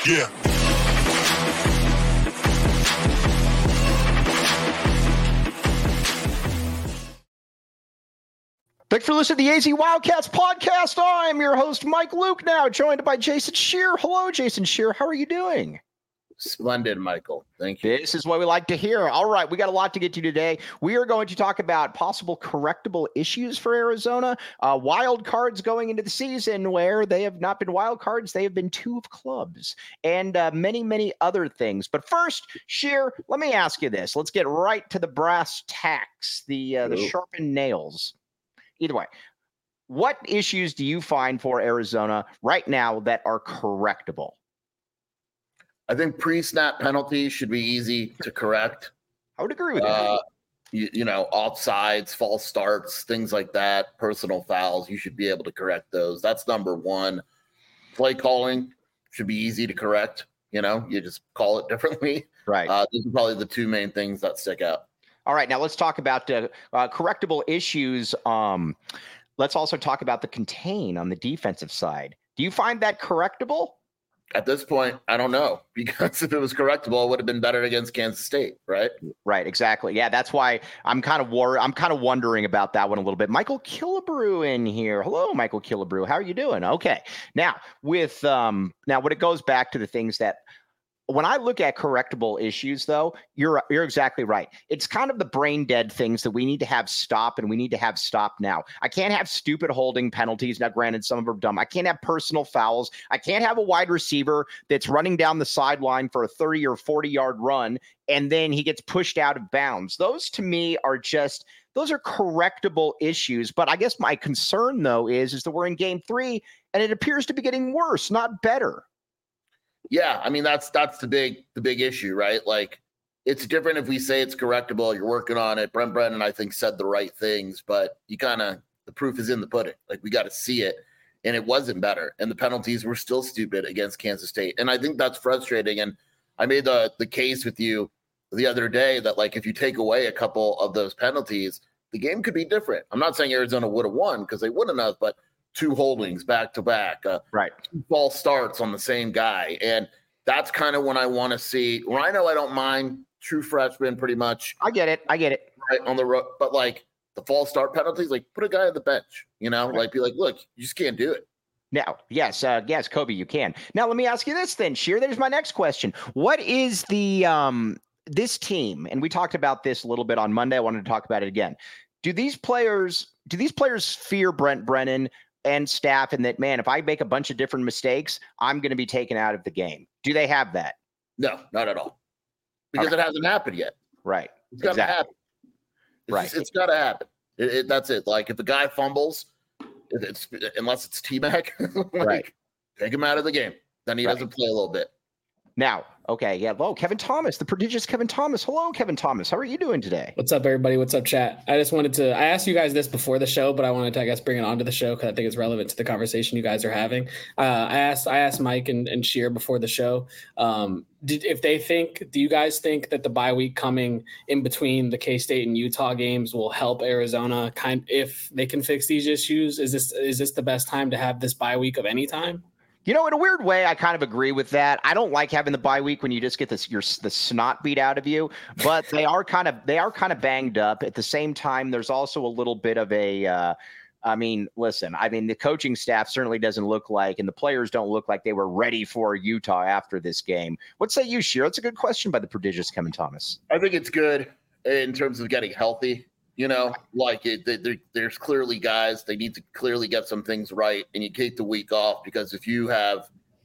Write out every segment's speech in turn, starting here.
Yeah. Thanks for listening to the AZ Wildcats podcast. I'm your host, Mike Luke, now joined by Jason Scheer. Hello, Jason Scheer. How are you doing? Splendid, Michael. Thank you. This is what we like to hear. All right, we got a lot to get to today. We are going to talk about possible correctable issues for Arizona, wild cards going into the season where they have not been wild cards. They have been two of clubs, and many, many other things. But first, Scheer, let me ask you this. Let's get right to the brass tacks, the sharpened nails. Either way, what issues do you find for Arizona right now that are correctable? I think pre-snap penalties should be easy to correct. I would agree with that. You know, offsides, false starts, things like that, personal fouls, you should be able to correct those. That's number one. Play calling should be easy to correct. You know, you just call it differently. Right. These are probably the two main things that stick out. All right, now let's talk about correctable issues. Let's also talk about the contain on the defensive side. Do you find that correctable? At this point, I don't know, because if it was correctable, it would have been better against Kansas State, right? Right, exactly. Yeah, that's why I'm kind of worried. I'm kind of wondering about that one a little bit. Michael Killebrew in here. Hello, Michael Killebrew. How are you doing? Okay. Now, with when it goes back to the things that when I look at correctable issues, though, you're exactly right. It's kind of the brain dead things that we need to have stop, and we need to have stop now. I can't have stupid holding penalties. Now, granted, some of them are dumb. I can't have personal fouls. I can't have a wide receiver that's running down the sideline for a 30 or 40-yard run, and then he gets pushed out of bounds. Those, to me, those are correctable issues. But I guess my concern, though, is that we're in game 3, and it appears to be getting worse, not better. Yeah, I mean, that's the big issue, right? Like, it's different if we say it's correctable, you're working on it. Brent Brennan, I think, said the right things, but the proof is in the pudding. Like, we got to see it, and it wasn't better. And the penalties were still stupid against Kansas State. And I think that's frustrating. And I made the case with you the other day that, like, if you take away a couple of those penalties, the game could be different. I'm not saying Arizona would have won, because they wouldn't have, but 2 holdings back to back, right? 2 false starts on the same guy, and that's kind of when I want to see. Rhino, I don't mind, true freshman, pretty much. I get it. Right on the road, but like the false start penalties, like put a guy on the bench, you know, right. Like be like, look, you just can't do it. Now, yes, Kobe, you can. Now, let me ask you this then, Scheer. There's my next question. What is the this team? And we talked about this a little bit on Monday. I wanted to talk about it again. Do these players fear Brent Brennan and staff, and that, man, if I make a bunch of different mistakes, I'm going to be taken out of the game? Do they have that? No, not at all. Because It hasn't happened yet. Right. It's got to happen. It's got to happen. That's it. Like, if a guy fumbles, unless it's T-Mac, right, take him out of the game. Then he doesn't play a little bit. Now, okay, yeah. Hello, Kevin Thomas, the prodigious Kevin Thomas. Hello, Kevin Thomas. How are you doing today? What's up, everybody? What's up, chat? I asked you guys this before the show, but I wanted to, I guess, bring it onto the show because I think it's relevant to the conversation you guys are having. I asked Mike and Scheer before the show, do you guys think that the bye week coming in between the K-State and Utah games will help Arizona if they can fix these issues? Is this the best time to have this bye week of any time? You know, in a weird way, I kind of agree with that. I don't like having the bye week when you just get the snot beat out of you, but they are kind of banged up. At the same time, there's also a little bit of a the coaching staff certainly doesn't look like, and the players don't look like they were ready for Utah after this game. What say you, Scheer? That's a good question by the prodigious Kevin Thomas. I think it's good in terms of getting healthy. You know, like there's clearly guys, they need to clearly get some things right, and you take the week off, because if you have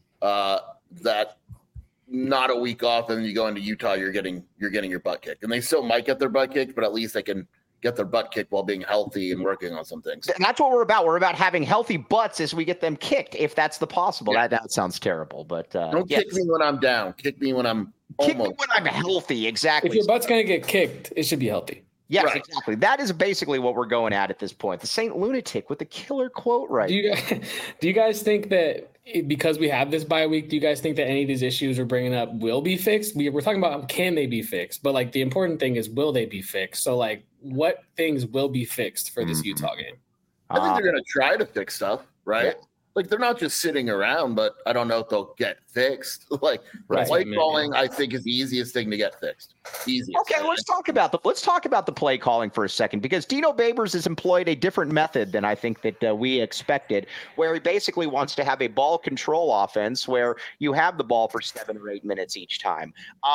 that not a week off and then you go into Utah, you're getting your butt kicked. And they still might get their butt kicked, but at least they can get their butt kicked while being healthy and working on some things. And that's what we're about. We're about having healthy butts as we get them kicked, if that's the possible. Yeah. That sounds terrible, but don't kick me when I'm down. Kick me when I'm healthy. Exactly. If your butt's going to get kicked, it should be healthy. Yes, right. Exactly. That is basically what we're going at this point. The Saint Lunatic with the killer quote, right? Do you guys think that because we have this bye week, do you guys think that any of these issues we're bringing up will be fixed? We're talking about can they be fixed, but like the important thing is will they be fixed? So like what things will be fixed for this Utah game? I think they're going to try to fix stuff, right? like they're not just sitting around, but I don't know if they'll get fixed. Like Right. play calling, I think is the easiest thing to get fixed. Easiest. Okay, let's talk about the play calling for a second, because Dino Babers has employed a different method than I think that we expected, where he basically wants to have a ball control offense where you have the ball for 7 or 8 minutes each time.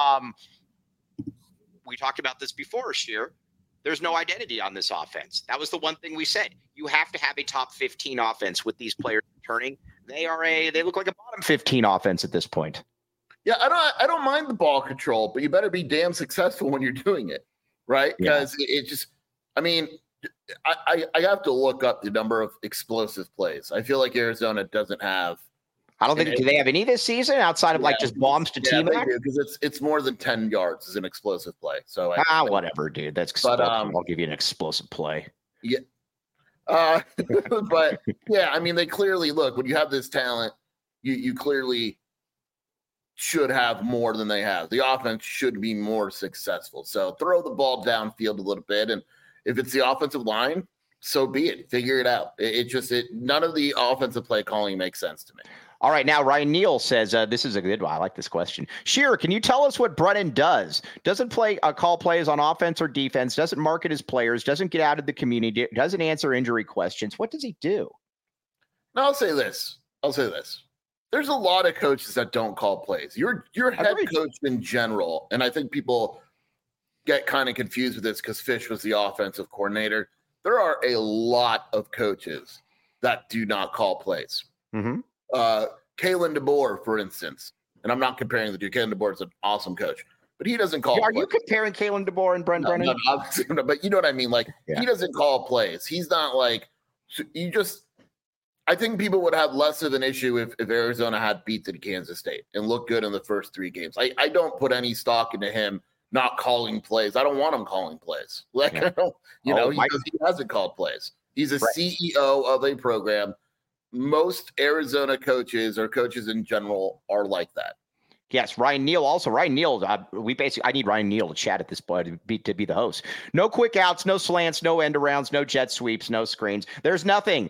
We talked about this before, Sheer. There's no identity on this offense. That was the one thing we said. You have to have a top 15 offense with these players returning. They look like a bottom 15 offense at this point. Yeah, I don't mind the ball control, but you better be damn successful when you're doing it, right? Because it just, I mean, I have to look up the number of explosive plays. I feel like Arizona doesn't have. I don't think, do they have any this season outside of like just bombs to T-Mac? Because it's more than 10 yards is an explosive play. So whatever, dude. That's explosive. I'll give you an explosive play. Yeah. But yeah, I mean, they clearly look, when you have this talent, you clearly should have more than they have. The offense should be more successful. So throw the ball downfield a little bit. And if it's the offensive line, so be it. Figure it out. None of the offensive play calling makes sense to me. All right, now Ryan Neal says, this is a good one. I like this question. Shearer, can you tell us what Brennan does? Doesn't call plays on offense or defense, doesn't market his players, doesn't get out of the community, doesn't answer injury questions. What does he do? Now, I'll say this. There's a lot of coaches that don't call plays. Your head coach in general, and I think people get kind of confused with this because Fish was the offensive coordinator. There are a lot of coaches that do not call plays. Mm-hmm. Kalen DeBoer, for instance, and I'm not comparing the two. Kalen DeBoer is an awesome coach, but he doesn't call. Are you comparing Kalen DeBoer and Brent Brennan? No, but you know what I mean. Like he doesn't call plays. He's not like you just. I think people would have less of an issue if Arizona had beaten Kansas State and looked good in the first 3 games. I don't put any stock into him not calling plays. I don't want him calling plays. Like I don't, he hasn't called plays. He's a CEO of a program. Most Arizona coaches or coaches in general are like that. Yes, Ryan Neal also. Ryan Neal, I need Ryan Neal to chat at this point to be the host. No quick outs, no slants, no end arounds, no jet sweeps, no screens. There's nothing.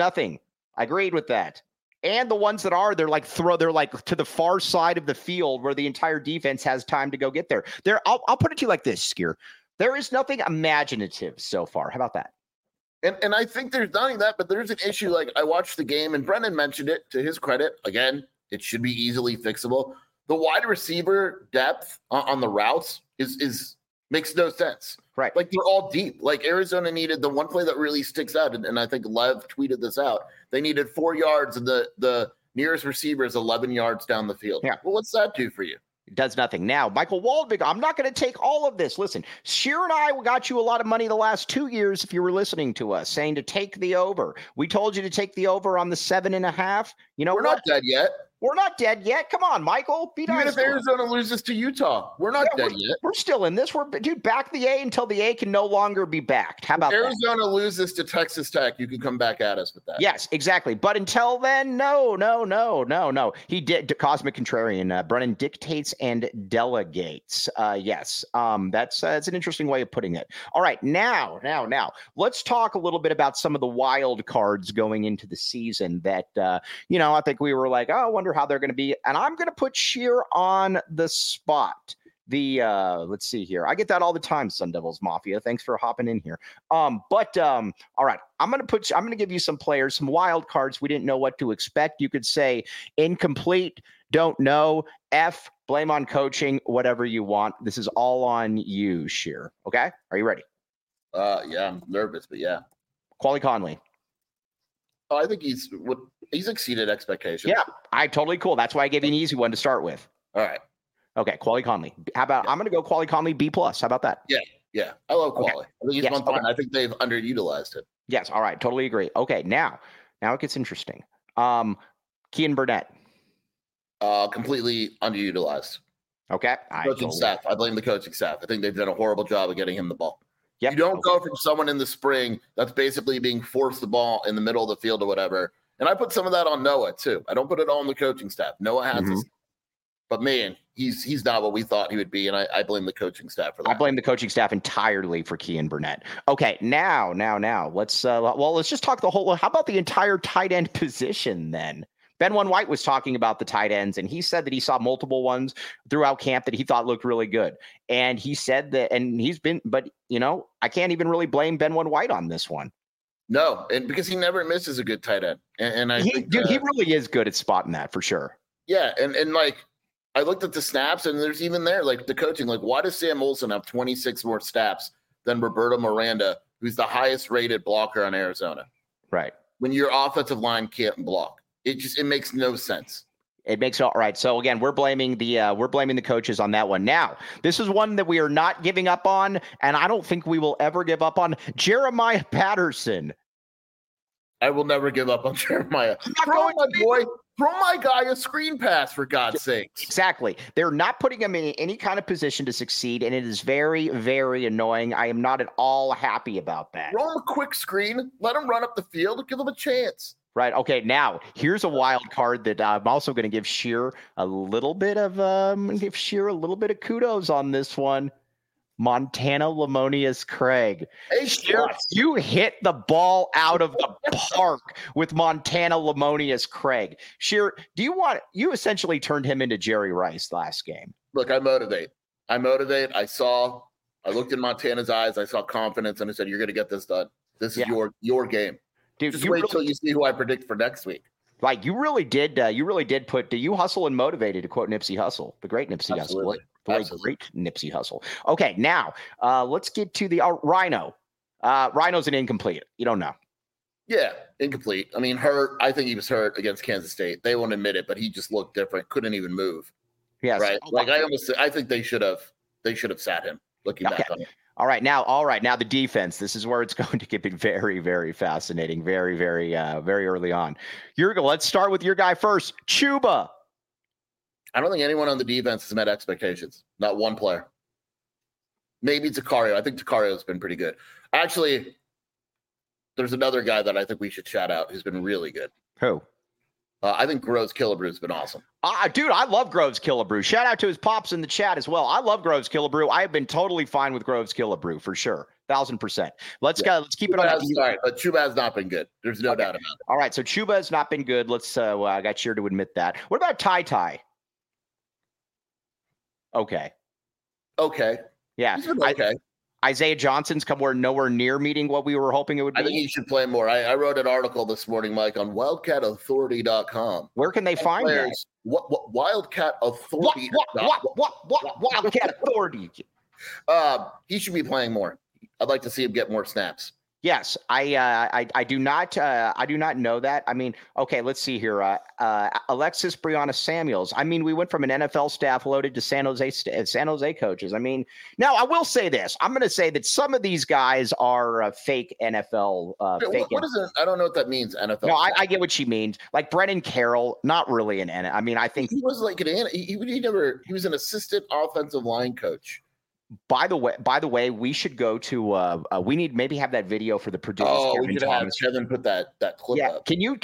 I agreed with that. And the ones that are, they're like to the far side of the field where the entire defense has time to go get there. I'll put it to you like this, Skier. There is nothing imaginative so far. How about that? And I think there's not only that, but there's an issue. Like I watched the game, and Brennan mentioned it. To his credit, again, it should be easily fixable. The wide receiver depth on the routes is makes no sense. Right. Like they're all deep. Like Arizona needed the one play that really sticks out, and I think Lev tweeted this out. They needed 4 yards, and the nearest receiver is 11 yards down the field. Yeah. Well, what's that do for you? It does nothing. Now, Michael Waldvig, I'm not going to take all of this. Listen, Sheer and I got you a lot of money the last 2 years if you were listening to us, saying to take the over. We told you to take the over on the 7.5. You know, we're not dead yet. We're not dead yet. Come on, Michael. Even if Arizona loses to Utah, we're not dead yet. We're still in this. Back the A until the A can no longer be backed. How about Arizona loses to Texas Tech? You can come back at us with that. Yes, exactly. But until then, no. He did. Cosmic Contrarian. Brennan dictates and delegates. Yes. That's an interesting way of putting it. All right. Now, let's talk a little bit about some of the wild cards going into the season that, I think we were like, I wonder how they're going to be. And I'm going to put Sheer on the spot. Let's see here. I get that all the time, Sun Devils Mafia. Thanks for hopping in here. All right. I'm going to give you some players, some wild cards we didn't know what to expect. You could say incomplete, don't know, F, blame on coaching, whatever you want. This is all on you, Sheer. Okay? Are you ready? Yeah, I'm nervous, but yeah. Quali Conley. Oh, I think he's exceeded expectations. Yeah, totally cool. That's why I gave you an easy one to start with. All right. Okay, Quali Conley. How about I'm going to go Quali Conley B+. How about that? Yeah. I love Quali. Okay. I think he's one fine. I think they've underutilized him. Yes. All right. Totally agree. Okay. Now it gets interesting. Kean Burnett. Completely underutilized. Okay. Coaching staff. I blame the coaching staff. I think they've done a horrible job of getting him the ball. Yep. You don't go from someone in the spring that's basically being forced the ball in the middle of the field or whatever. And I put some of that on Noah too. I don't put it all on the coaching staff. Noah has this. But man, he's not what we thought he would be, and I blame the coaching staff for that. I blame the coaching staff entirely for Kean Burnett. Okay, now, let's just talk the whole. How about the entire tight end position then? Ben White was talking about the tight ends, and he said that he saw multiple ones throughout camp that he thought looked really good. And he said that, and but I can't even really blame Ben White on this one. No, and because he never misses a good tight end, and I think he really is good at spotting that for sure. Yeah, and like I looked at the snaps, and there's even there like the coaching. Like, why does Sam Olsen have 26 more snaps than Roberto Miranda, who's the highest rated blocker on Arizona? Right. When your offensive line can't block. It makes no sense. It makes all right. So again, we're blaming the coaches on that one. Now, this is one that we are not giving up on, and I don't think we will ever give up on. Jeremiah Patterson. I will never give up on Jeremiah. Throw my guy a screen pass, for God's sakes. Exactly. They're not putting him in any kind of position to succeed, and it is very, very annoying. I am not at all happy about that. Throw him a quick screen, let him run up the field, and give him a chance. Right. Okay. Now here's a wild card that I'm also going to give Shear a little bit of kudos on this one. Montana Lamonius Craig. Hey, Shear, you hit the ball out of the park with Montana Lamonius Craig. Shear, you essentially turned him into Jerry Rice last game. Look, I motivate. I looked in Montana's eyes. I saw confidence, and I said, "You're going to get this done. This is your game." Dude, just wait till you see who I predict for next week. Like you really did put you hustle and motivated, to quote Nipsey Hussle, the great Nipsey Hussle. Great Nipsey Hussle. Okay, now let's get to the Rhino. Rhino's an incomplete. You don't know. Yeah, incomplete. I mean, hurt. I think he was hurt against Kansas State. They won't admit it, but he just looked different. Couldn't even move. Yes. Right. Like I think they should have sat him. Looking back on it. All right, now the defense. This is where it's going to get very, very fascinating. Very, very, very early on. Let's start with your guy first, Chuba. I don't think anyone on the defense has met expectations. Not one player. Maybe Takario. I think Takario's been pretty good. Actually, there's another guy that I think we should shout out who's been really good. Who? I think Groves Killebrew has been awesome. Dude, I love Groves Killebrew. Shout out to his pops in the chat as well. I love Groves Killebrew. I have been totally fine with Groves Killebrew for sure. 1,000%. Let's keep it on. Sorry, but Chuba has not been good. There's no doubt about it. All right, so Chuba has not been good. I got Sheer to admit that. What about Ty? Okay. Yeah. Okay. Isaiah Johnson's nowhere near meeting what we were hoping it would be. I think he should play more. I wrote an article this morning, Mike, on wildcatauthority.com. Where can they find that? What Wildcat Authority? What Wildcat Authority? He should be playing more. I'd like to see him get more snaps. Yes, I do not know that. I mean, okay, let's see here. Alexis Brianna Samuels. I mean, we went from an NFL staff loaded to San Jose coaches. I mean, now I will say this. I'm going to say that some of these guys are fake NFL. What is it? I don't know what that means. NFL. No, I get what she means. Like Brennan Carroll, not really an NFL. I mean, I think he was like he was an assistant offensive line coach. By the way, we should go to. We need maybe have that video for the producer. Oh, we could have Kevin put that clip up. Can you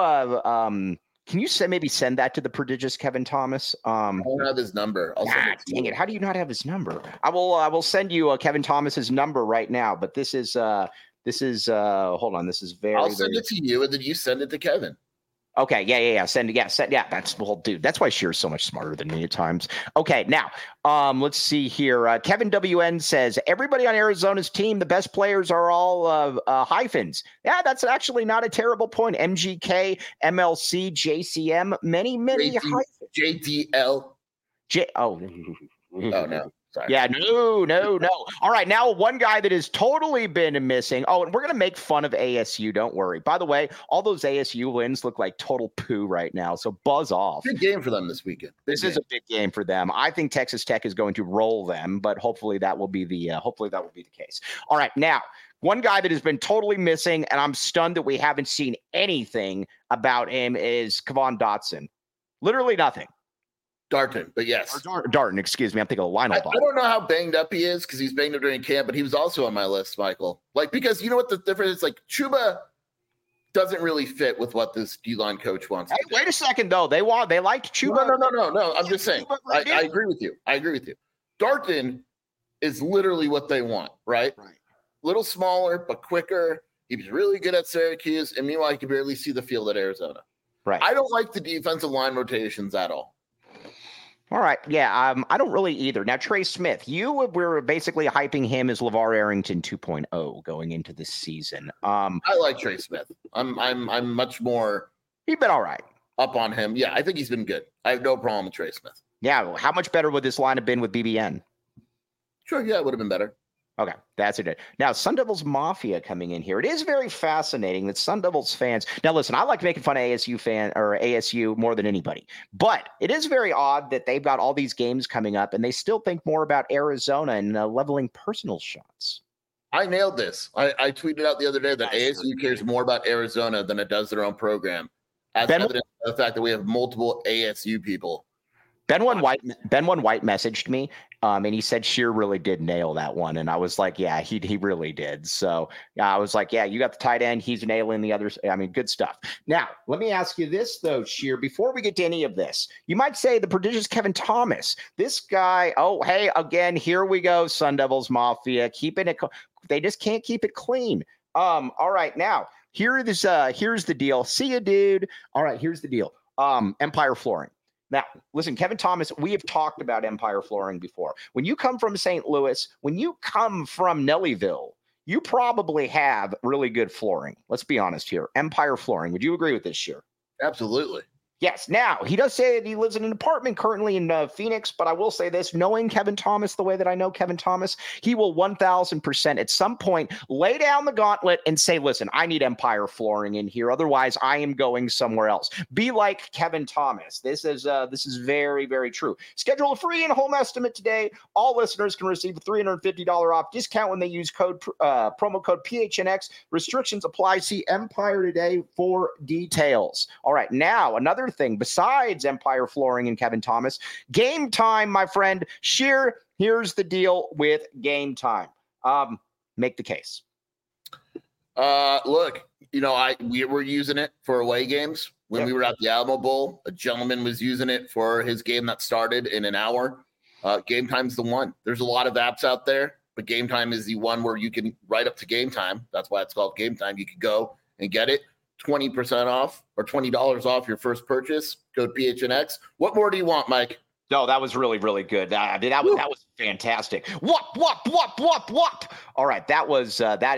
send that to the prodigious Kevin Thomas? I don't have his number. Dang it! How do you not have his number? I will send you Kevin Thomas's number right now. But this is hold on. This is very. I'll send it to you, and then you send it to Kevin. Okay, yeah. Send. That's dude. That's why Shear's so much smarter than me at times. Okay, now, let's see here. Kevin WN says everybody on Arizona's team, the best players are all hyphens. Yeah, that's actually not a terrible point. MGK, MLC, JCM, many hyphens. JDL. Oh no. Sorry. Yeah, no. All right, now one guy that has totally been missing. Oh, and we're going to make fun of ASU. Don't worry. By the way, all those ASU wins look like total poo right now, so buzz off. Big game for them this weekend. This is a big game for them. I think Texas Tech is going to roll them, but hopefully that will be the case. All right, now, one guy that has been totally missing, and I'm stunned that we haven't seen anything about him, is Kevon Dotson. Literally nothing. Darton, but yes. Darton, excuse me. I'm thinking of Lionel. I don't know how banged up he is because he's banged up during camp, but he was also on my list, Michael. Like, because you know what the difference is? Like, Chuba doesn't really fit with what this D-line coach wants. Hey, wait a second, though. They liked Chuba. No. I'm just saying. I agree with you. Darton is literally what they want, right? Right. Little smaller, but quicker. He was really good at Syracuse, and meanwhile, he could barely see the field at Arizona. Right. I don't like the defensive line rotations at all. All right. Yeah, I don't really either. Now, Trey Smith, you were basically hyping him as LeVar Arrington 2.0 going into this season. I like Trey Smith. I'm much more. He's been all right. Up on him. Yeah, I think he's been good. I have no problem with Trey Smith. Yeah. How much better would this line have been with BBN? Sure. Yeah, it would have been better. Okay, that's it. Now, Sun Devils Mafia coming in here. It is very fascinating that Sun Devils fans. Now, listen, I like making fun of ASU more than anybody, but it is very odd that they've got all these games coming up and they still think more about Arizona and leveling personal shots. I nailed this. I tweeted out the other day that ASU cares more about Arizona than it does their own program, as evidence of the fact that we have multiple ASU people. Ben One White messaged me, and he said Shear really did nail that one, and I was like, yeah, he really did. So I was like, yeah, you got the tight end, he's nailing the others. I mean, good stuff. Now, let me ask you this though, Shear. Before we get to any of this, you might say the prodigious Kevin Thomas. This guy. Oh, hey, again, here we go. Sun Devils Mafia keeping it. They just can't keep it clean. All right, now here's the deal. See ya, dude. All right, here's the deal. Empire Flooring. Now, listen, Kevin Thomas, we have talked about Empire Flooring before. When you come from St. Louis, when you come from Nellyville, you probably have really good flooring. Let's be honest here. Empire Flooring. Would you agree with this, Shear? Absolutely. Yes. Now, he does say that he lives in an apartment currently in Phoenix, but I will say this, knowing Kevin Thomas the way that I know Kevin Thomas, he will 1,000% at some point lay down the gauntlet and say, listen, I need Empire Flooring in here. Otherwise, I am going somewhere else. Be like Kevin Thomas. This is very, very true. Schedule a free in-home estimate today. All listeners can receive a $350 off discount when they use promo code PHNX. Restrictions apply. See Empire today for details. All right. Now, another thing besides Empire Flooring and Kevin Thomas, Game Time, my friend. Shear, here's the deal with Game Time. Make the case. Look, we were using it for away games when we were at the Alamo Bowl. A gentleman was using it for his game that started in an hour. Game Time's the one. There's a lot of apps out there, but Game Time is the one where you can write up to Game Time. That's why it's called Game Time. You can go and get it. 20% off or $20 off your first purchase. Code PHNX. What more do you want, Mike? No, that was really, really good. That was fantastic. What? All right, that was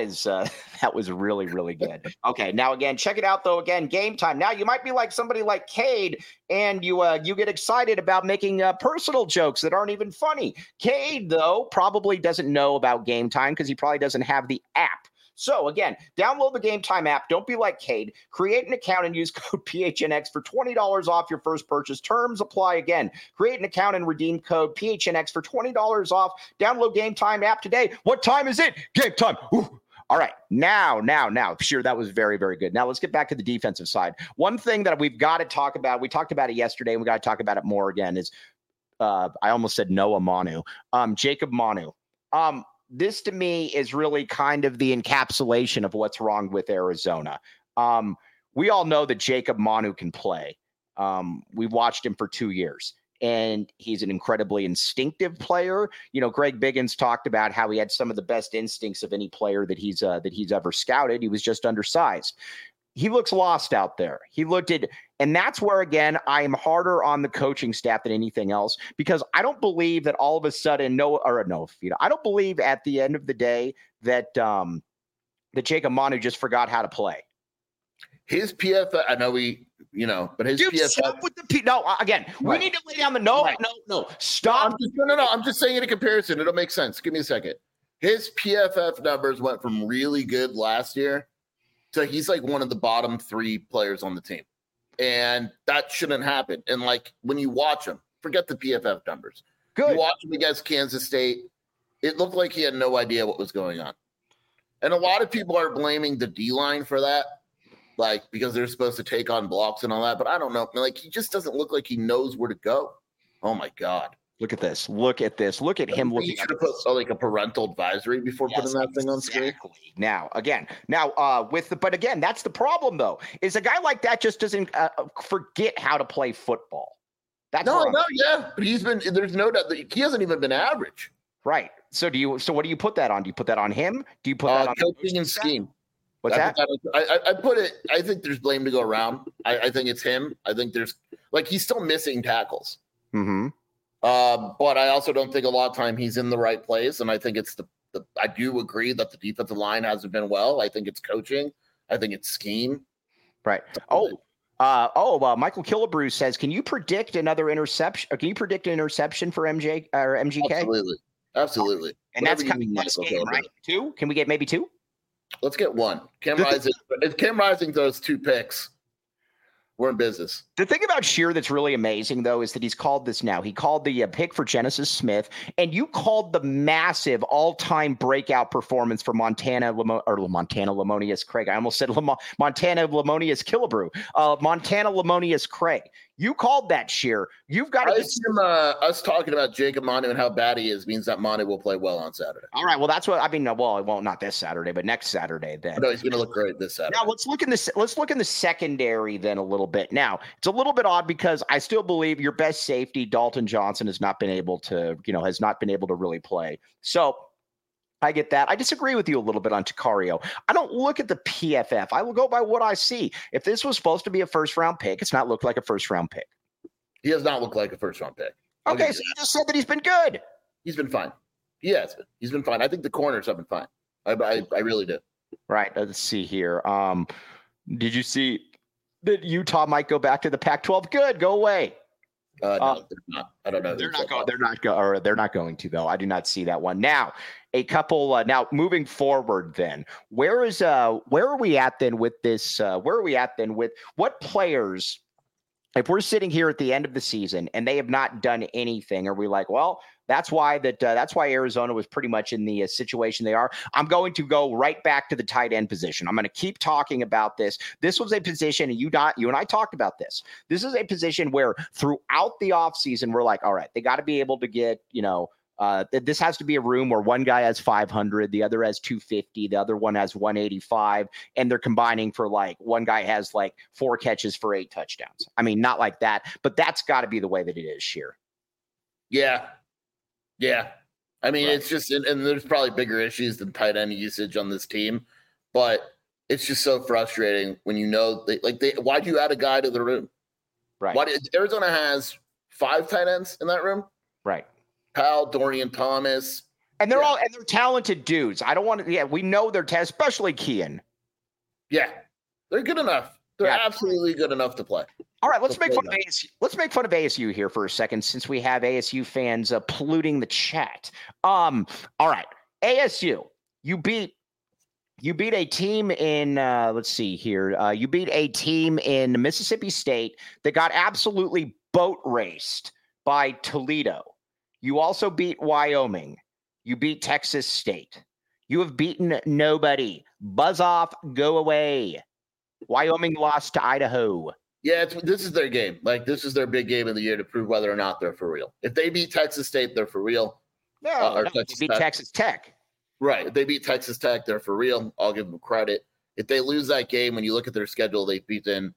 really, really good. Okay, now again, check it out though. Again, Game Time. Now you might be like somebody like Cade, and you get excited about making personal jokes that aren't even funny. Cade though probably doesn't know about Game Time because he probably doesn't have the app. So again, download the Game Time app. Don't be like Cade. Create an account and use code PHNX for $20 off your first purchase. Terms apply again. Create an account and redeem code PHNX for $20 off. Download Game Time app today. What time is it? Game time. Ooh. All right. Now. Sure, that was very, very good. Now let's get back to the defensive side. One thing that we've got to talk about, we talked about it yesterday, and we got to talk about it more again, is I almost said Noah Manu. Jacob Manu. This to me is really kind of the encapsulation of what's wrong with Arizona. We all know that Jacob Manu can play. We've watched him for 2 years, and he's an incredibly instinctive player. Greg Biggins talked about how he had some of the best instincts of any player that he's ever scouted. He was just undersized. He looks lost out there. And that's where, again, I am harder on the coaching staff than anything else, because I don't believe that all of a sudden, I don't believe at the end of the day that Jacob Manu just forgot how to play. His PFF, I know but his PFF. We need to lay down the no. Stop. I'm just saying in a comparison. It'll make sense. Give me a second. His PFF numbers went from really good last year to he's like one of the bottom 3 players on the team. And that shouldn't happen. And when you watch him, forget the PFF numbers. Good. You watch him against Kansas State, it looked like he had no idea what was going on. And a lot of people are blaming the D-line for that, because they're supposed to take on blocks and all that. But I don't know. He just doesn't look like he knows where to go. Oh, my God. Look at this. Look at this. Look at him looking. You should have put like a parental advisory before putting that thing on screen. Now, again, but again, that's the problem though. Is a guy like that just doesn't forget how to play football. That's yeah, but there's no doubt that he hasn't even been average. Right. So what do you put that on? Do you put that on him? Do you put that on coaching and scheme? What's that? I think there's blame to go around. I think it's him. I think he's still missing tackles. Mm-hmm. But I also don't think a lot of time he's in the right place. And I think it's I do agree that the defensive line hasn't been well. I think it's coaching. I think it's scheme. Right. Michael Killebrew says, can you predict another interception? Or can you predict an interception for MJ or MGK? Absolutely. And that's coming next game, right? 2? Can we get maybe 2? Let's get 1. If Cam Rising throws 2 picks, we're in business. The thing about Scheer that's really amazing, though, is that he's called this now. He called the pick for Genesis Smith, and you called the massive all-time breakout performance for Montana Lamonius Craig. I almost said Montana Lamonius Killebrew. Montana Lamonius Craig. You called that, Scheer. You've got to get us talking about Jacob Manu and how bad he is means that Manu will play well on Saturday. All right. Well, that's what I mean. Well, it won't, not this Saturday, but next Saturday then. No, he's going to look great this Saturday. Now let's look in the secondary then a little bit. Now it's a little bit odd because I still believe your best safety, Dalton Johnson, has not been able to really play. So I get that. I disagree with you a little bit on Takario. I don't look at the PFF. I will go by what I see. If this was supposed to be a first-round pick, it's not looked like a first-round pick. He does not look like a first-round pick. Okay, so you just said that he's been good. He's been fine. He has been. He's been fine. I think the corners have been fine. I really do. Right. Let's see here. Did you see that Utah might go back to the Pac-12? Good. Go away. No, they're not. I don't know. They're not going to, though. I do not see that one. Now, a couple. Now, moving forward, then, where are we at then with this? Where are we at then with what players? If we're sitting here at the end of the season and they have not done anything, are we like, well, that's why Arizona was pretty much in the situation they are? I'm going to go right back to the tight end position. I'm going to keep talking about this. This was a position, and you and I talked about this. This is a position where throughout the offseason, we're like, all right, they got to be able to get, this has to be a room where one guy has 500, the other has 250, the other one has 185, and they're combining for like one guy has like 4 catches for 8 touchdowns. I mean, not like that, but that's got to be the way that it is, Scheer. Yeah. I mean, It's just, and there's probably bigger issues than tight end usage on this team, but it's just so frustrating when why'd you add a guy to the room? Right. Arizona has 5 tight ends in that room? Right. Powell, Dorian Thomas. And they're talented dudes. I don't want to, we know they're especially Kean. Yeah. They're good enough. They're absolutely good enough to play. All right, let's make fun of ASU. Let's make fun of ASU here for a second, since we have ASU fans polluting the chat. All right, ASU, you beat a team in. Let's see here. You beat a team in Mississippi State that got absolutely boat raced by Toledo. You also beat Wyoming. You beat Texas State. You have beaten nobody. Buzz off, go away. Wyoming lost to Idaho. Yeah, this is their game. This is their big game of the year to prove whether or not they're for real. If they beat Texas State, they're for real. No, they beat Texas Tech. Right. If they beat Texas Tech, they're for real. I'll give them credit. If they lose that game, when you look at their schedule, they've beaten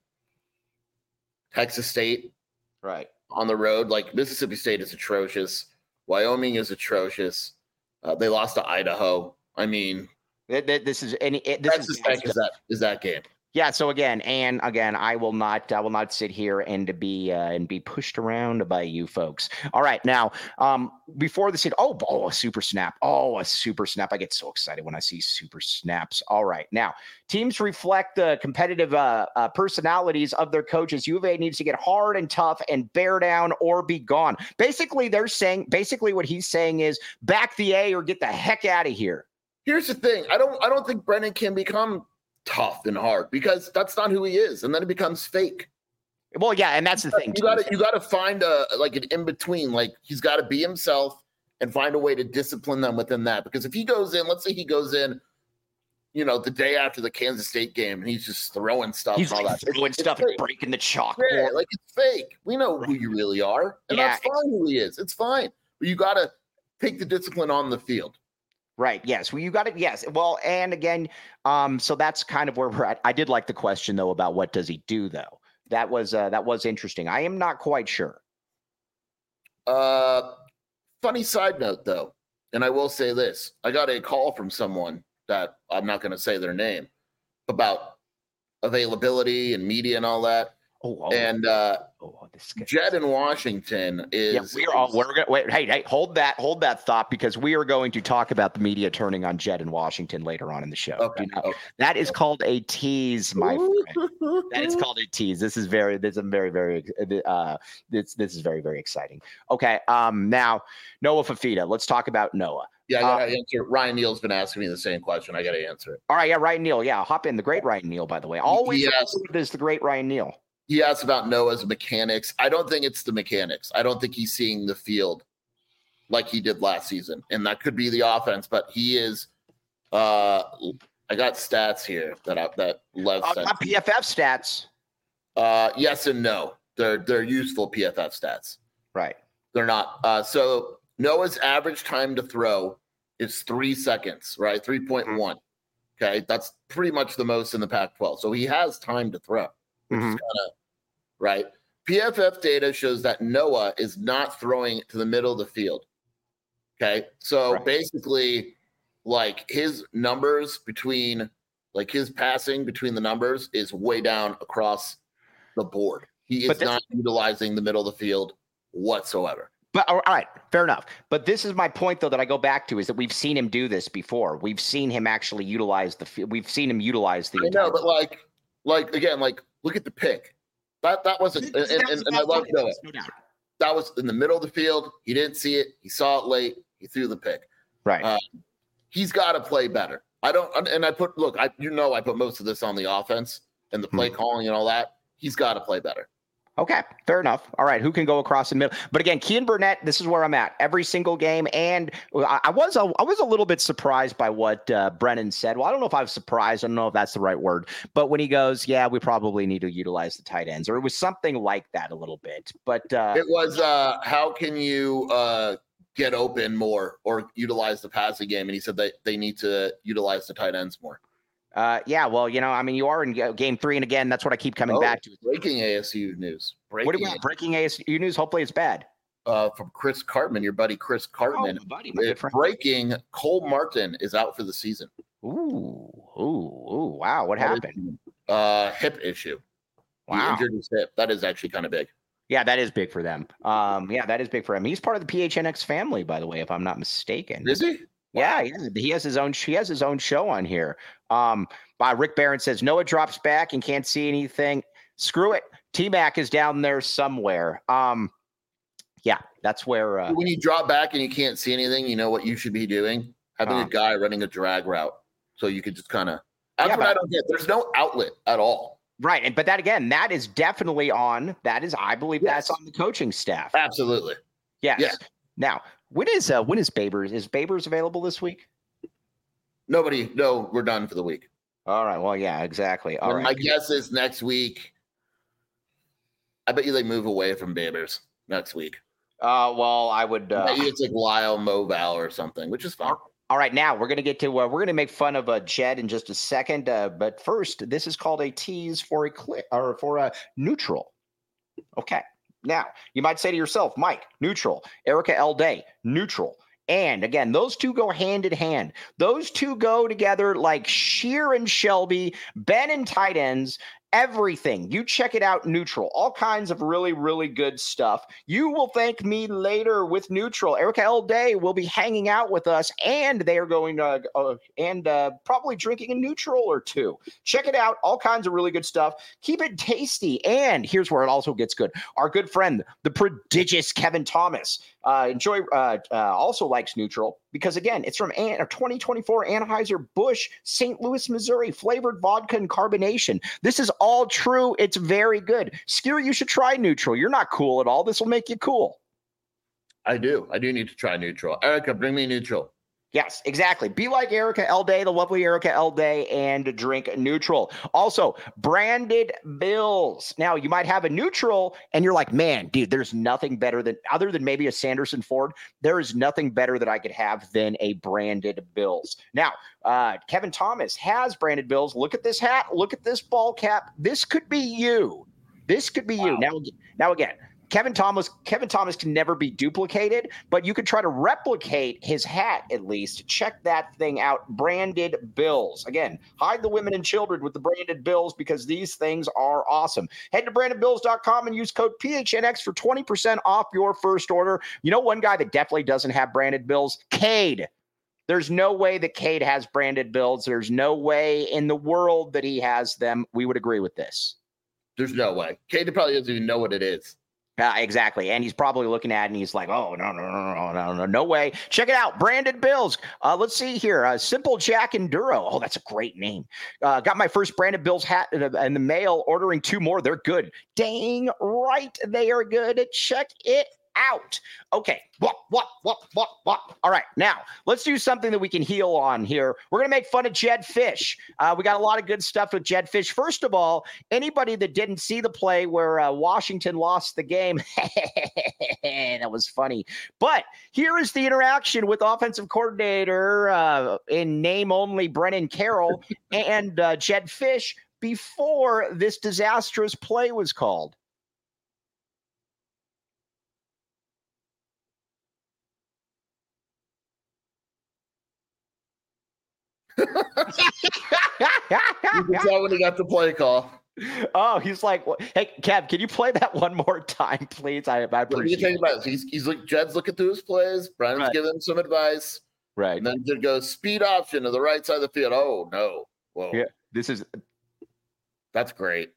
Texas State. Right. On the road. Mississippi State is atrocious. Wyoming is atrocious. They lost to Idaho. I mean, Texas Tech is that game. Yeah. So again, I will not sit here and be pushed around by you folks. All right. Now, before the scene, a super snap. A super snap. I get so excited when I see super snaps. All right. Now, teams reflect the competitive personalities of their coaches. U of A needs to get hard and tough and bear down or be gone. Basically, what he's saying is back the A or get the heck out of here. Here's the thing. I don't think Brennan can become tough and hard because that's not who he is, and then it becomes fake. Well, yeah, and that's the thing. You got to find an in between. He's got to be himself and find a way to discipline them within that. Because if he goes in, let's say he goes in, the day after the Kansas State game, and he's just throwing stuff. He's and all like that. throwing stuff and breaking the chalkboard. Yeah, like it's fake. We know who you really are, and that's fine. Who he is, it's fine. But you got to take the discipline on the field. Right. Yes. Well, you got it. Yes. Well, and again, so that's kind of where we're at. I did like the question though about what does he do though. That was interesting. I am not quite sure. Funny side note though, and I will say this: I got a call from someone that I'm not going to say their name about availability and media and all that. And Jed in Washington is. Yeah, we're gonna wait. Hey, hold that thought, because we are going to talk about the media turning on Jed in Washington later on in the show. Okay. That is called a tease, my friend. That is called a tease. This is very very exciting. Okay. Now Noah Fifita. Let's talk about Noah. Yeah, I gotta answer. Ryan Neal's been asking me the same question. I gotta answer it. All right, yeah, Ryan Neal. Yeah, hop in. The great Ryan Neal, by the way. Always is the great Ryan Neal. He asked about Noah's mechanics. I don't think it's the mechanics. I don't think he's seeing the field like he did last season. And that could be the offense, but he is I got stats here that Lev sent. Not PFF stats. Yes and no. They're useful PFF stats. Right. They're not. So Noah's average time to throw is 3 seconds, right? 3.1. Okay. That's pretty much the most in the Pac-12. So he has time to throw, which is kind of right. PFF data shows that Noah is not throwing to the middle of the field. Okay. So basically, like his numbers between, like his passing between the numbers is way down across the board. He is not utilizing the middle of the field whatsoever. But all right, fair enough. But this is my point, though, that I go back to, is that we've seen him do this before. We've seen him actually utilize the field. We've seen him utilize the. I know, but like again, like look at the pick. That wasn't, and I love Noah. No doubt. That was in the middle of the field. He didn't see it. He saw it late. He threw the pick. Right. He's got to play better. I put most of this on the offense and the play calling and all that. He's got to play better. Okay, fair enough. All right, who can go across the middle? But again, Kean Burnett, this is where I'm at every single game. And I was a little bit surprised by what Brennan said. Well, I don't know if I was surprised. I don't know if that's the right word. But when he goes, yeah, we probably need to utilize the tight ends, or it was something like that a little bit. But it was, how can you get open more or utilize the passing game? And he said that they need to utilize the tight ends more. Yeah, well, you are in game 3, and again, that's what I keep coming back to. Breaking ASU news. What do we got? Breaking ASU news. Hopefully, it's bad. From Chris Cartman, your buddy Chris Cartman. Breaking: Cole Martin is out for the season. Ooh! Wow, what happened? Hip issue. Wow, he injured his hip. That is actually kind of big. Yeah, that is big for them. Yeah, that is big for him. He's part of the PHNX family, by the way, if I'm not mistaken. Is he? Yeah, he has his own show on here. Rick Barron says Noah drops back and can't see anything. Screw it. T-Mac is down there somewhere. Yeah, that's where when you drop back and you can't see anything, you know what you should be doing? Having a guy running a drag route. So you could just kind of I don't get. There's no outlet at all. Right. But that again, that is definitely on. That's on the coaching staff. Absolutely. Yes. Yeah. Now, when is Babers? Is Babers available this week? No, we're done for the week. All right. Well, yeah, exactly. All right. My guess is next week. I bet you they move away from Babers next week. Well, I would. It's like Lyle Moval or something, which is fine. All right, now we're gonna get to we're gonna make fun of Jed in just a second, but first, this is called a tease for a click or for a neutral. Okay. Now, you might say to yourself, Mike, neutral. Erica L. Day, neutral. And again, those two go hand in hand. Those two go together like Shear and Shelby, Ben and tight ends, everything. You check it out, neutral. All kinds of really, really good stuff. You will thank me later with neutral. Erica L. Day will be hanging out with us, and they are going to probably drinking a neutral or two. Check it out. All kinds of really good stuff. Keep it tasty. And here's where it also gets good. Our good friend, the prodigious Kevin Thomas, also likes neutral because, again, it's from a 2024 Anheuser-Busch St. Louis, Missouri, flavored vodka and carbonation. This is all true. It's very good. Skeery, you should try neutral. You're not cool at all. This will make you cool. I do need to try neutral. Erica, bring me neutral. Yes, exactly. Be like Erica Elday, the lovely Erica Elday, and drink neutral. Also, branded bills. Now, you might have a neutral and you're like, man, dude, there's nothing better than, other than maybe a Sanderson Ford, there is nothing better that I could have than a branded bills. Now, Kevin Thomas has branded bills. Look at this hat. Look at this ball cap. This could be you. This could be you. Now again, Kevin Thomas can never be duplicated, but you could try to replicate his hat at least. Check that thing out. Branded bills. Again, hide the women and children with the branded bills because these things are awesome. Head to brandedbills.com and use code PHNX for 20% off your first order. You know one guy that definitely doesn't have branded bills? Cade. There's no way that Cade has branded bills. There's no way in the world that he has them. We would agree with this. There's no way. Cade probably doesn't even know what it is. Exactly. And he's probably looking at it and he's like, oh, no way. Check it out. Branded bills. Let's see here. Simple Jack Enduro. Oh, that's a great name. Got my first branded bills hat in the mail, ordering 2 more. They're good. Dang right. They are good. Check it out. Okay. What? All right. Now let's do something that we can heal on here. We're going to make fun of Jedd Fisch. We got a lot of good stuff with Jedd Fisch. First of all, anybody that didn't see the play where Washington lost the game, that was funny. But here is the interaction with offensive coordinator in name only Brennan Carroll and Jedd Fisch before this disastrous play was called. You can tell when he got the play call. Oh, he's like, hey, Kev, can you play that one more time, please? I appreciate it. About it. He's like, Jedd's looking through his plays. Brennan's giving him some advice. Right. And then Jedd goes, speed option to the right side of the field. Oh, no. Whoa. Yeah, that's great.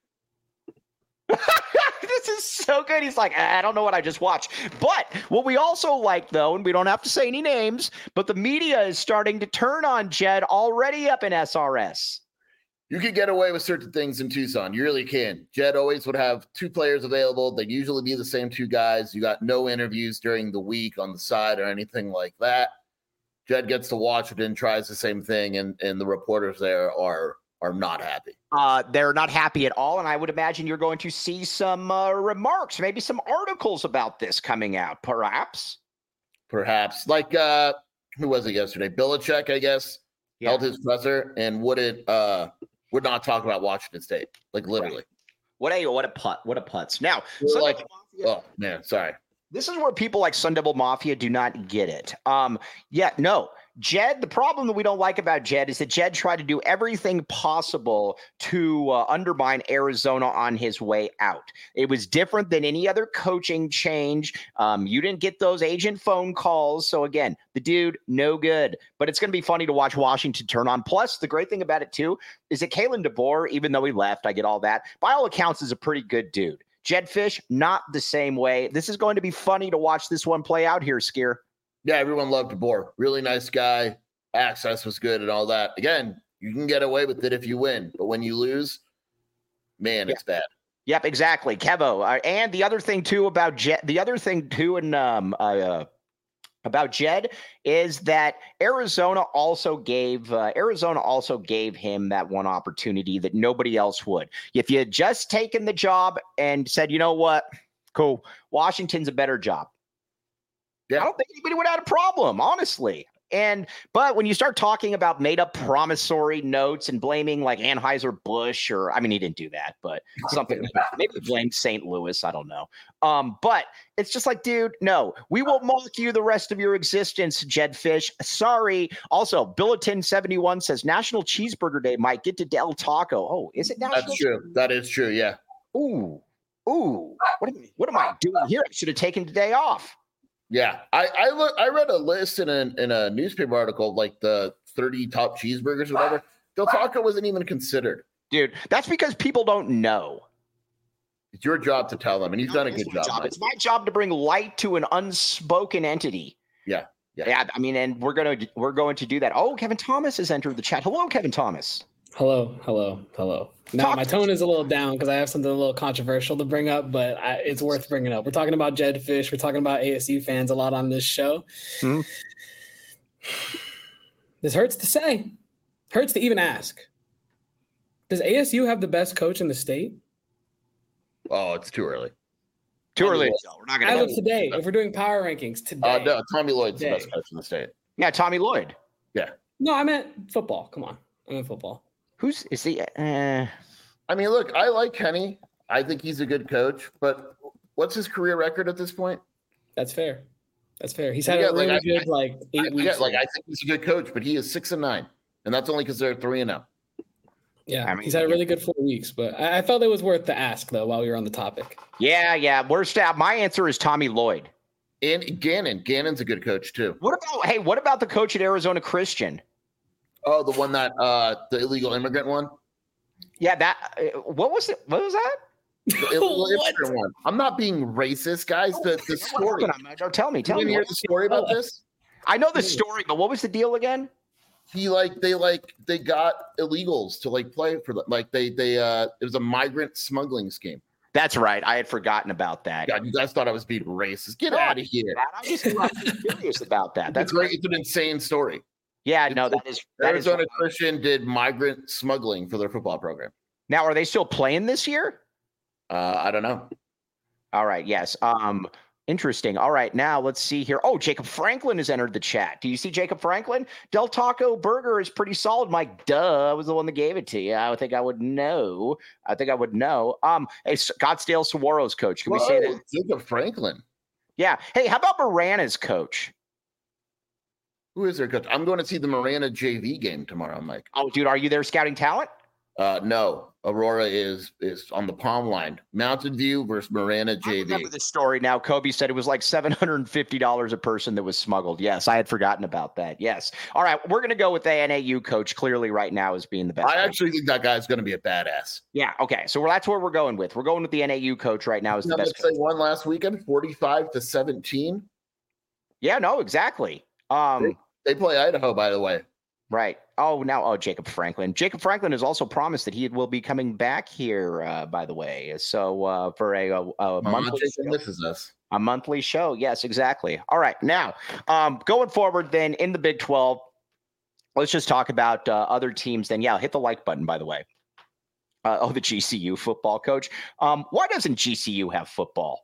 This is so good. He's like, I don't know what I just watched. But what we also like, though, and we don't have to say any names, but the media is starting to turn on Jedd already up in SRS. You can get away with certain things in Tucson. You really can. Jedd always would have 2 players available. They'd usually be the same 2 guys. You got no interviews during the week on the side or anything like that. Jedd gets to watch it and tries the same thing, and the reporters there are not happy. They're not happy at all, and I would imagine you're going to see some remarks, maybe some articles about this coming out, perhaps. Perhaps. Like, who was it yesterday? Belichick, I guess, held his presser and would not talk about Washington State, like literally. Right. What a putz. Now, like, oh, man, sorry. This is where people like Sun Devil Mafia do not get it. Jedd, the problem that we don't like about Jedd is that Jedd tried to do everything possible to undermine Arizona on his way out. It was different than any other coaching change. You didn't get those agent phone calls. So again, the dude, no good. But it's going to be funny to watch Washington turn on. Plus, the great thing about it, too, is that Kalen DeBoer, even though he left, I get all that, by all accounts, is a pretty good dude. Jedd Fisch, not the same way. This is going to be funny to watch this one play out here, Skier. Yeah, everyone loved DeBoer. Really nice guy. Access was good and all that. Again, you can get away with it if you win, but when you lose, man, it's bad. Yep, exactly. Kevo. And the other thing too about Jedd, about Jedd is that Arizona also gave him that one opportunity that nobody else would. If you had just taken the job and said, you know what, cool, Washington's a better job. Yeah. I don't think anybody would have had a problem, honestly. But when you start talking about made up promissory notes and blaming like Anheuser-Busch he didn't do that, but something maybe blame St. Louis. I don't know. But it's just like, dude, no, we will mock you the rest of your existence, Jedd Fisch. Sorry. Also, Billiton 71 says National Cheeseburger Day might get to Del Taco. Oh, is it National? That's true. That is true. Yeah. Ooh. What am I doing here? I should have taken the day off. Yeah, I read a list in a newspaper article, like the 30 top cheeseburgers or whatever. Del Taco wasn't even considered. Dude, that's because people don't know. It's your job to tell them, and you've done a good job. It's my job to bring light to an unspoken entity. Yeah. And we're going to do that. Oh, Kevin Thomas has entered the chat. Hello, Kevin Thomas. Hello. Now, my tone is a little down because I have something a little controversial to bring up, but it's worth bringing up. We're talking about Jedd Fisch. We're talking about ASU fans a lot on this show. Mm-hmm. This hurts to say. Hurts to even ask. Does ASU have the best coach in the state? Oh, it's too early. Too early. We're not As of today, if we're doing power rankings today. No, Tommy Lloyd's the best coach in the state. Yeah, Tommy Lloyd. Yeah. No, I meant football. Come on. I meant football. Is he? I mean, look, I like Kenny. I think he's a good coach, but what's his career record at this point? That's fair. He's had a really good 8 weeks. I think he's a good coach, but he is 6-9, and that's only because they're 3-0. Yeah, he's had a really good 4 weeks, but I felt it was worth the ask though while we were on the topic. Yeah. My answer is Tommy Lloyd. And Gannon's a good coach too. What about the coach at Arizona Christian? Oh, the one that the illegal immigrant one. Yeah, what was it? What was that? The illegal immigrant one. I'm not being racist, guys. The story. Tell me. You didn't hear the story about this? I know the story, but what was the deal again? They got illegals to play for it was a migrant smuggling scheme. That's right. I had forgotten about that. God, you guys thought I was being racist. Get out of here. I'm just curious about that. That's great. It's an insane story. Yeah, no, that is Arizona Christian did migrant smuggling for their football program. Now, are they still playing this year? I don't know. All right. Yes. Interesting. All right. Now let's see here. Oh, Jacob Franklin has entered the chat. Do you see Jacob Franklin? Del Taco Burger is pretty solid, Mike. Duh. I was the one that gave it to you. I think I would know. Hey, Scottsdale Saguaro's coach. Can we say that? Jacob Franklin. Yeah. Hey, how about Marana's coach? Who is their coach? I'm going to see the Marana JV game tomorrow, Mike. Oh, dude, are you there scouting talent? No. Aurora is on the palm line. Mountain View versus Marana JV. I remember this story now. Kobe said it was like $750 a person that was smuggled. Yes, I had forgotten about that. Yes. All right, we're going to go with the NAU coach clearly right now as being the best. I actually think that guy's going to be a badass. Yeah, okay. So that's where we're going with. We're going with the NAU coach right now as the best coach. They won last weekend, 45-17. Yeah, no, exactly. They play Idaho, by the way. Right. Jacob Franklin. Jacob Franklin has also promised that he will be coming back here, by the way. So for a monthly show. Misses us. A monthly show. Yes, exactly. All right. Now, going forward then in the Big 12, let's just talk about other teams then. Yeah, hit the like button, by the way. The GCU football coach. Why doesn't GCU have football?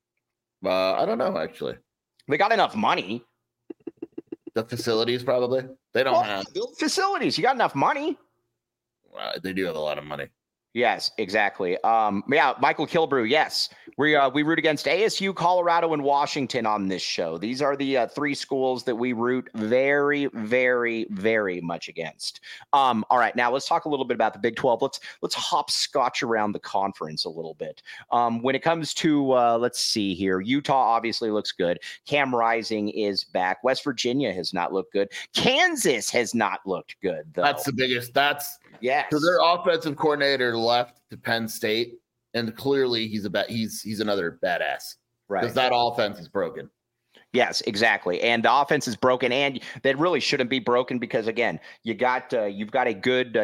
I don't know, actually. They got enough money. The facilities, probably. They don't have facilities. You got enough money. They do have a lot of money. Yes, exactly. Michael Killebrew. Yes, we root against ASU, Colorado, and Washington on this show. These are the three schools that we root very, very, very much against. All right, now let's talk a little bit about the Big 12. Let's hopscotch around the conference a little bit. When it comes to let's see here, Utah obviously looks good. Cam Rising is back. West Virginia has not looked good. Kansas has not looked good, though. That's the biggest. Yes. So their offensive coordinator left to Penn State, and clearly he's another badass. Right. Because that offense is broken. Yes, exactly. And the offense is broken, and that really shouldn't be broken because again, you've got a good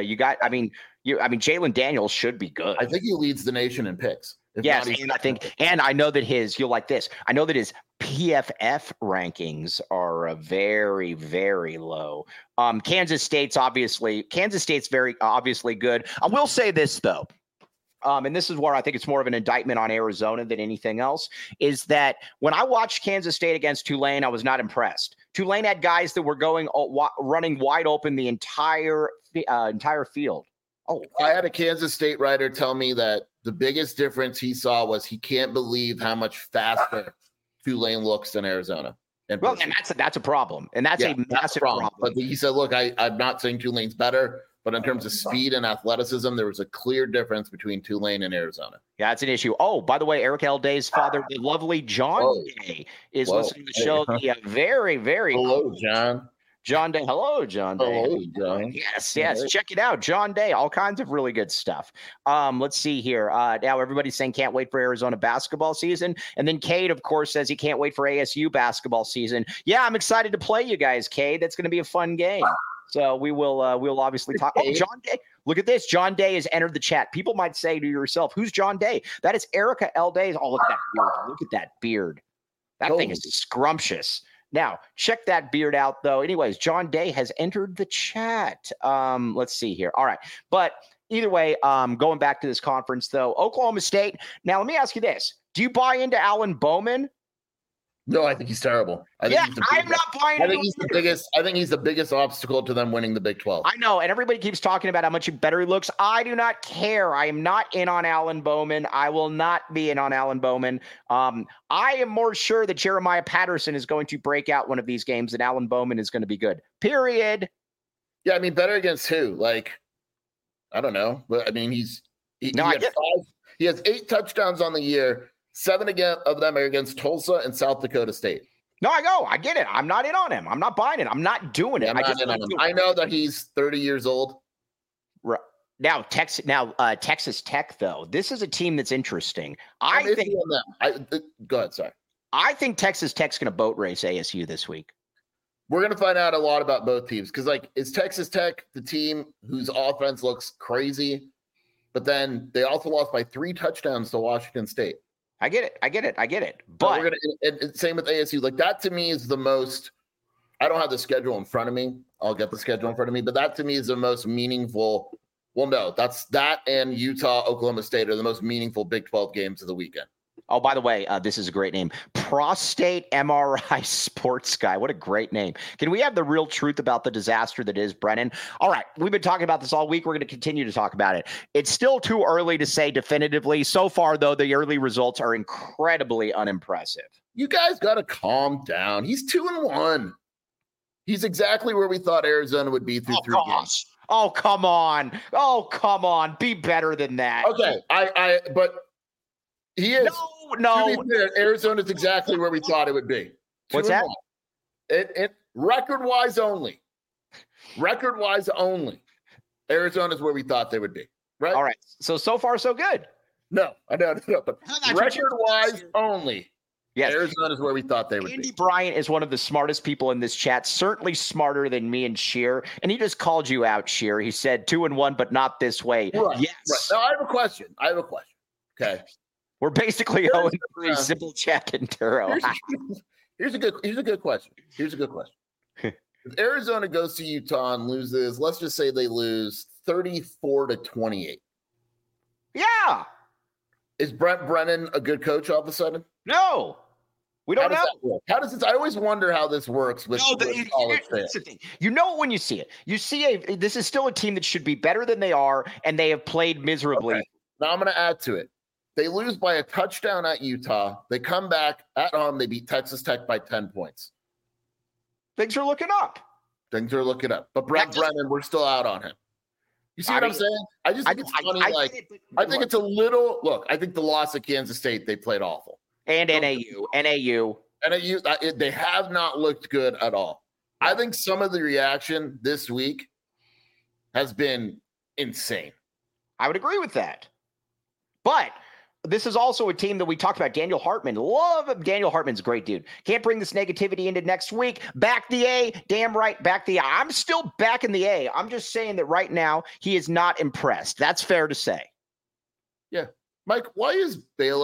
Jalen Daniels should be good. I think he leads the nation in picks. Yes, and I know that you'll like this. I know that his PFF rankings are very, very low. Kansas State's very obviously good. I will say this though. And this is where I think it's more of an indictment on Arizona than anything else, is that when I watched Kansas State against Tulane, I was not impressed. Tulane had guys that were running wide open the entire field. Oh, I had a Kansas State writer tell me that the biggest difference he saw was he can't believe how much faster Tulane looks than Arizona. And that's a problem. And that's a massive problem. But he said, look, I'm not saying Tulane's better, but in terms of speed and athleticism, there was a clear difference between Tulane and Arizona. Yeah, it's an issue. Oh, by the way, Eric L. Day's father, the lovely John Day, is listening to the show. The very, very hello, John. John Day. Hello, John Day. Hello, John. Yes. Check it out. John Day. All kinds of really good stuff. Let's see here. Now everybody's saying can't wait for Arizona basketball season. And then Cade, of course, says he can't wait for ASU basketball season. Yeah, I'm excited to play you guys, Cade. That's going to be a fun game. So we'll obviously talk. Oh, John Day. Look at this. John Day has entered the chat. People might say to yourself, who's John Day? That is Erica L. Day. Oh, look at that beard. Look at that beard. That thing is scrumptious. Now, check that beard out, though. Anyways, John Day has entered the chat. Let's see here. All right. But either way, going back to this conference, though, Oklahoma State. Now, let me ask you this. Do you buy into Alan Bowman? No, I think he's terrible. I'm not buying. I think he's the biggest obstacle to them winning the Big 12. I know, and everybody keeps talking about how much better he looks. I do not care. I am not in on Alan Bowman. I will not be in on Alan Bowman. I am more sure that Jeremiah Patterson is going to break out one of these games, and Alan Bowman is going to be good. Period. Yeah, I mean, better against who? Like, I don't know, but I mean, he has 8 touchdowns on the year. 7 of them are against Tulsa and South Dakota State. No, I get it. I'm not in on him. I'm not buying it. I'm not doing it. I know that he's 30 years old. Right. Now, Texas Tech, though, this is a team that's interesting. I think. Go ahead, sorry. I think Texas Tech's going to boat race ASU this week. We're going to find out a lot about both teams because, is Texas Tech the team whose offense looks crazy, but then they also lost by 3 touchdowns to Washington State? I get it. But we're gonna same with ASU. Like, that to me is the most. I don't have the schedule in front of me. I'll get the schedule in front of me, but that to me is the most meaningful. Well, no, that and Utah, Oklahoma State are the most meaningful Big 12 games of the weekend. Oh, by the way, this is a great name. Prostate MRI Sports Guy. What a great name. Can we have the real truth about the disaster that is Brennan? All right. We've been talking about this all week. We're going to continue to talk about it. It's still too early to say definitively. So far, though, the early results are incredibly unimpressive. You guys got to calm down. He's 2-1. He's exactly where we thought Arizona would be through 3 games. Oh, come on. Be better than that. Okay. But he is. No. Arizona's exactly where we thought it would be. What's that? It record-wise only. Arizona's where we thought they would be. Right. All right. So far, so good. No. But record-wise only. Yes. Arizona's where we thought they would be. Andy Bryant is one of the smartest people in this chat, certainly smarter than me and Sheer. And he just called you out, Sheer. He said 2-1, but not this way. Right. Yes. Right. Now I have a question. Okay. We're basically 0-3, simple check and Turo. Here's a good question. If Arizona goes to Utah and loses, let's just say they lose 34-28. Yeah. Is Brent Brennan a good coach all of a sudden? No. We don't know. How does this? I always wonder how this works with college fans. You know it when you see it. You see this is still a team that should be better than they are, and they have played miserably. Okay. Now I'm going to add to it. They lose by a touchdown at Utah. They come back at home. They beat Texas Tech by 10 points. Things are looking up. But Brent Brennan, we're still out on him. You see what I'm saying? I just think it's funny. I think it's a little. Look, I think the loss at Kansas State, they played awful. And NAU. They have not looked good at all. I think some of the reaction this week has been insane. I would agree with that. But this is also a team that we talked about. Daniel Hartman. Love him. Daniel Hartman's a great dude. Can't bring this negativity into next week. Back the A. Damn right. Back the A. I'm still back in the A. I'm just saying that right now he is not impressed. That's fair to say. Yeah. Mike, why is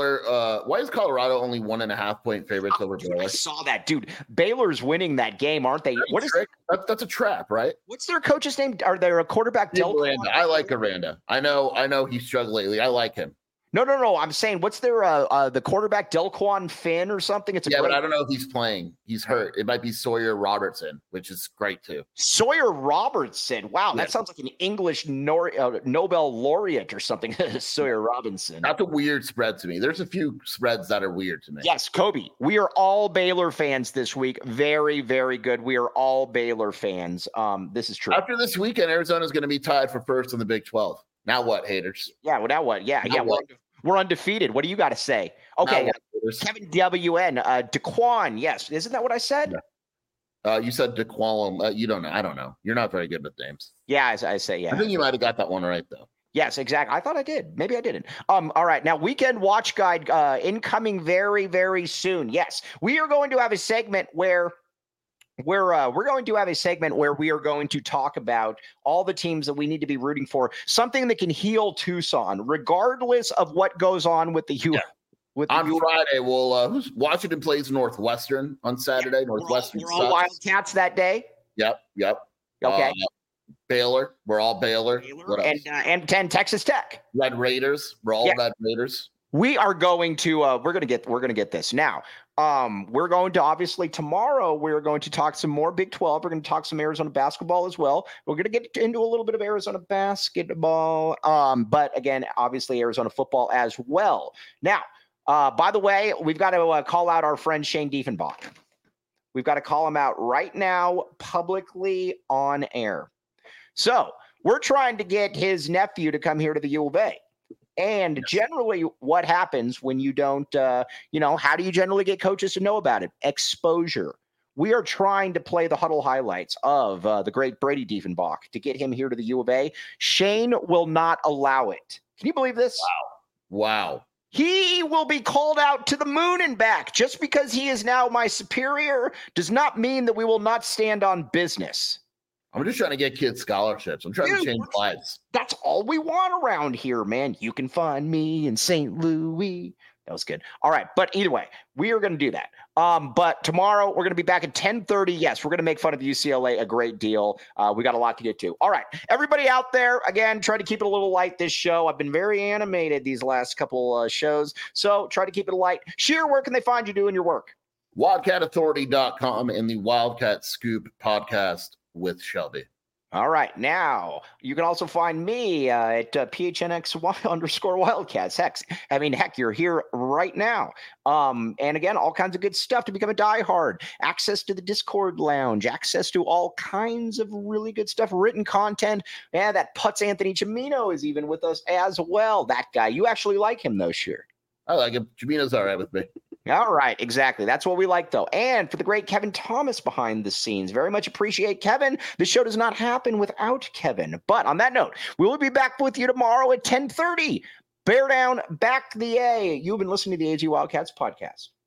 Colorado only 1.5 point favorites over Baylor? I saw that, dude. Baylor's winning that game, aren't they? That's a trap, right? What's their coach's name? Are they a quarterback? Aranda. I like Aranda. I know he's struggled lately. I like him. No. I'm saying, what's their the quarterback, Delquan Finn or something? But I don't know if he's playing. He's hurt. It might be Sawyer Robertson, which is great too. Sawyer Robertson. Wow, that sounds like an English Nobel laureate or something. Sawyer Robinson. That's a weird spread to me. There's a few spreads that are weird to me. Yes, Kobe. We are all Baylor fans this week. Very, very good. We are all Baylor fans. This is true. After this weekend, Arizona is going to be tied for first in the Big 12. Now what, haters? Yeah, well, now what? Yeah. We're undefeated. What do you got to say? Okay, Kevin WN, Daquan. Yes, isn't that what I said? Yeah. You said Daquan. You don't know. I don't know. You're not very good with names. Yeah, I say yeah. I think you might have got that one right though. Yes, exactly. I thought I did. Maybe I didn't. All right. Now, Weekend Watch Guide incoming very, very soon. Yes, we are going to have a segment where we're going to have a segment where we are going to talk about all the teams that we need to be rooting for, something that can heal Tucson, regardless of what goes on with the On Friday, Washington plays Northwestern on Saturday. Yeah, Northwestern. We're all Wildcats that day. Yep. Okay. Baylor. We're all Baylor. And 10 Texas Tech. Red Raiders. We're all Red Raiders. We are going to we're going to get this now. We're going to obviously tomorrow. We're going to talk some more Big 12. We're going to talk some Arizona basketball as well. We're going to get into a little bit of Arizona basketball, but again, obviously Arizona football as well. Now, by the way, we've got to call out our friend Shane Diefenbach. We've got to call him out right now, publicly on air. So we're trying to get his nephew to come here to the U of A. And generally what happens when you don't, how do you generally get coaches to know about it? Exposure. We are trying to play the huddle highlights of the great Brady Diefenbach to get him here to the U of A. Shane will not allow it. Can you believe this? Wow. He will be called out to the moon and back. Just because he is now my superior does not mean that we will not stand on business. I'm just trying to get kids scholarships. I'm trying to change lives. That's all we want around here, man. You can find me in St. Louis. That was good. All right. But either way, we are going to do that. But tomorrow we're going to be back at 10:30. Yes, we're going to make fun of UCLA a great deal. We got a lot to get to. All right. Everybody out there, again, try to keep it a little light this show. I've been very animated these last couple shows. So try to keep it light. Sheer, where can they find you doing your work? WildcatAuthority.com and the Wildcat Scoop podcast with Shelby. All right. Now, you can also find me at PHNX_Wildcats. Heck, you're here right now. And again, all kinds of good stuff to become a diehard. Access to the Discord lounge, access to all kinds of really good stuff, written content. Yeah, that Putz Anthony Chimino is even with us as well. That guy. You actually like him, though, sure. I like him. Chimino's all right with me. All right, exactly. That's what we like, though. And for the great Kevin Thomas behind the scenes, very much appreciate Kevin. The show does not happen without Kevin. But on that note, we will be back with you tomorrow at 10:30. Bear down, back the A. You've been listening to the AZ Wildcats podcast.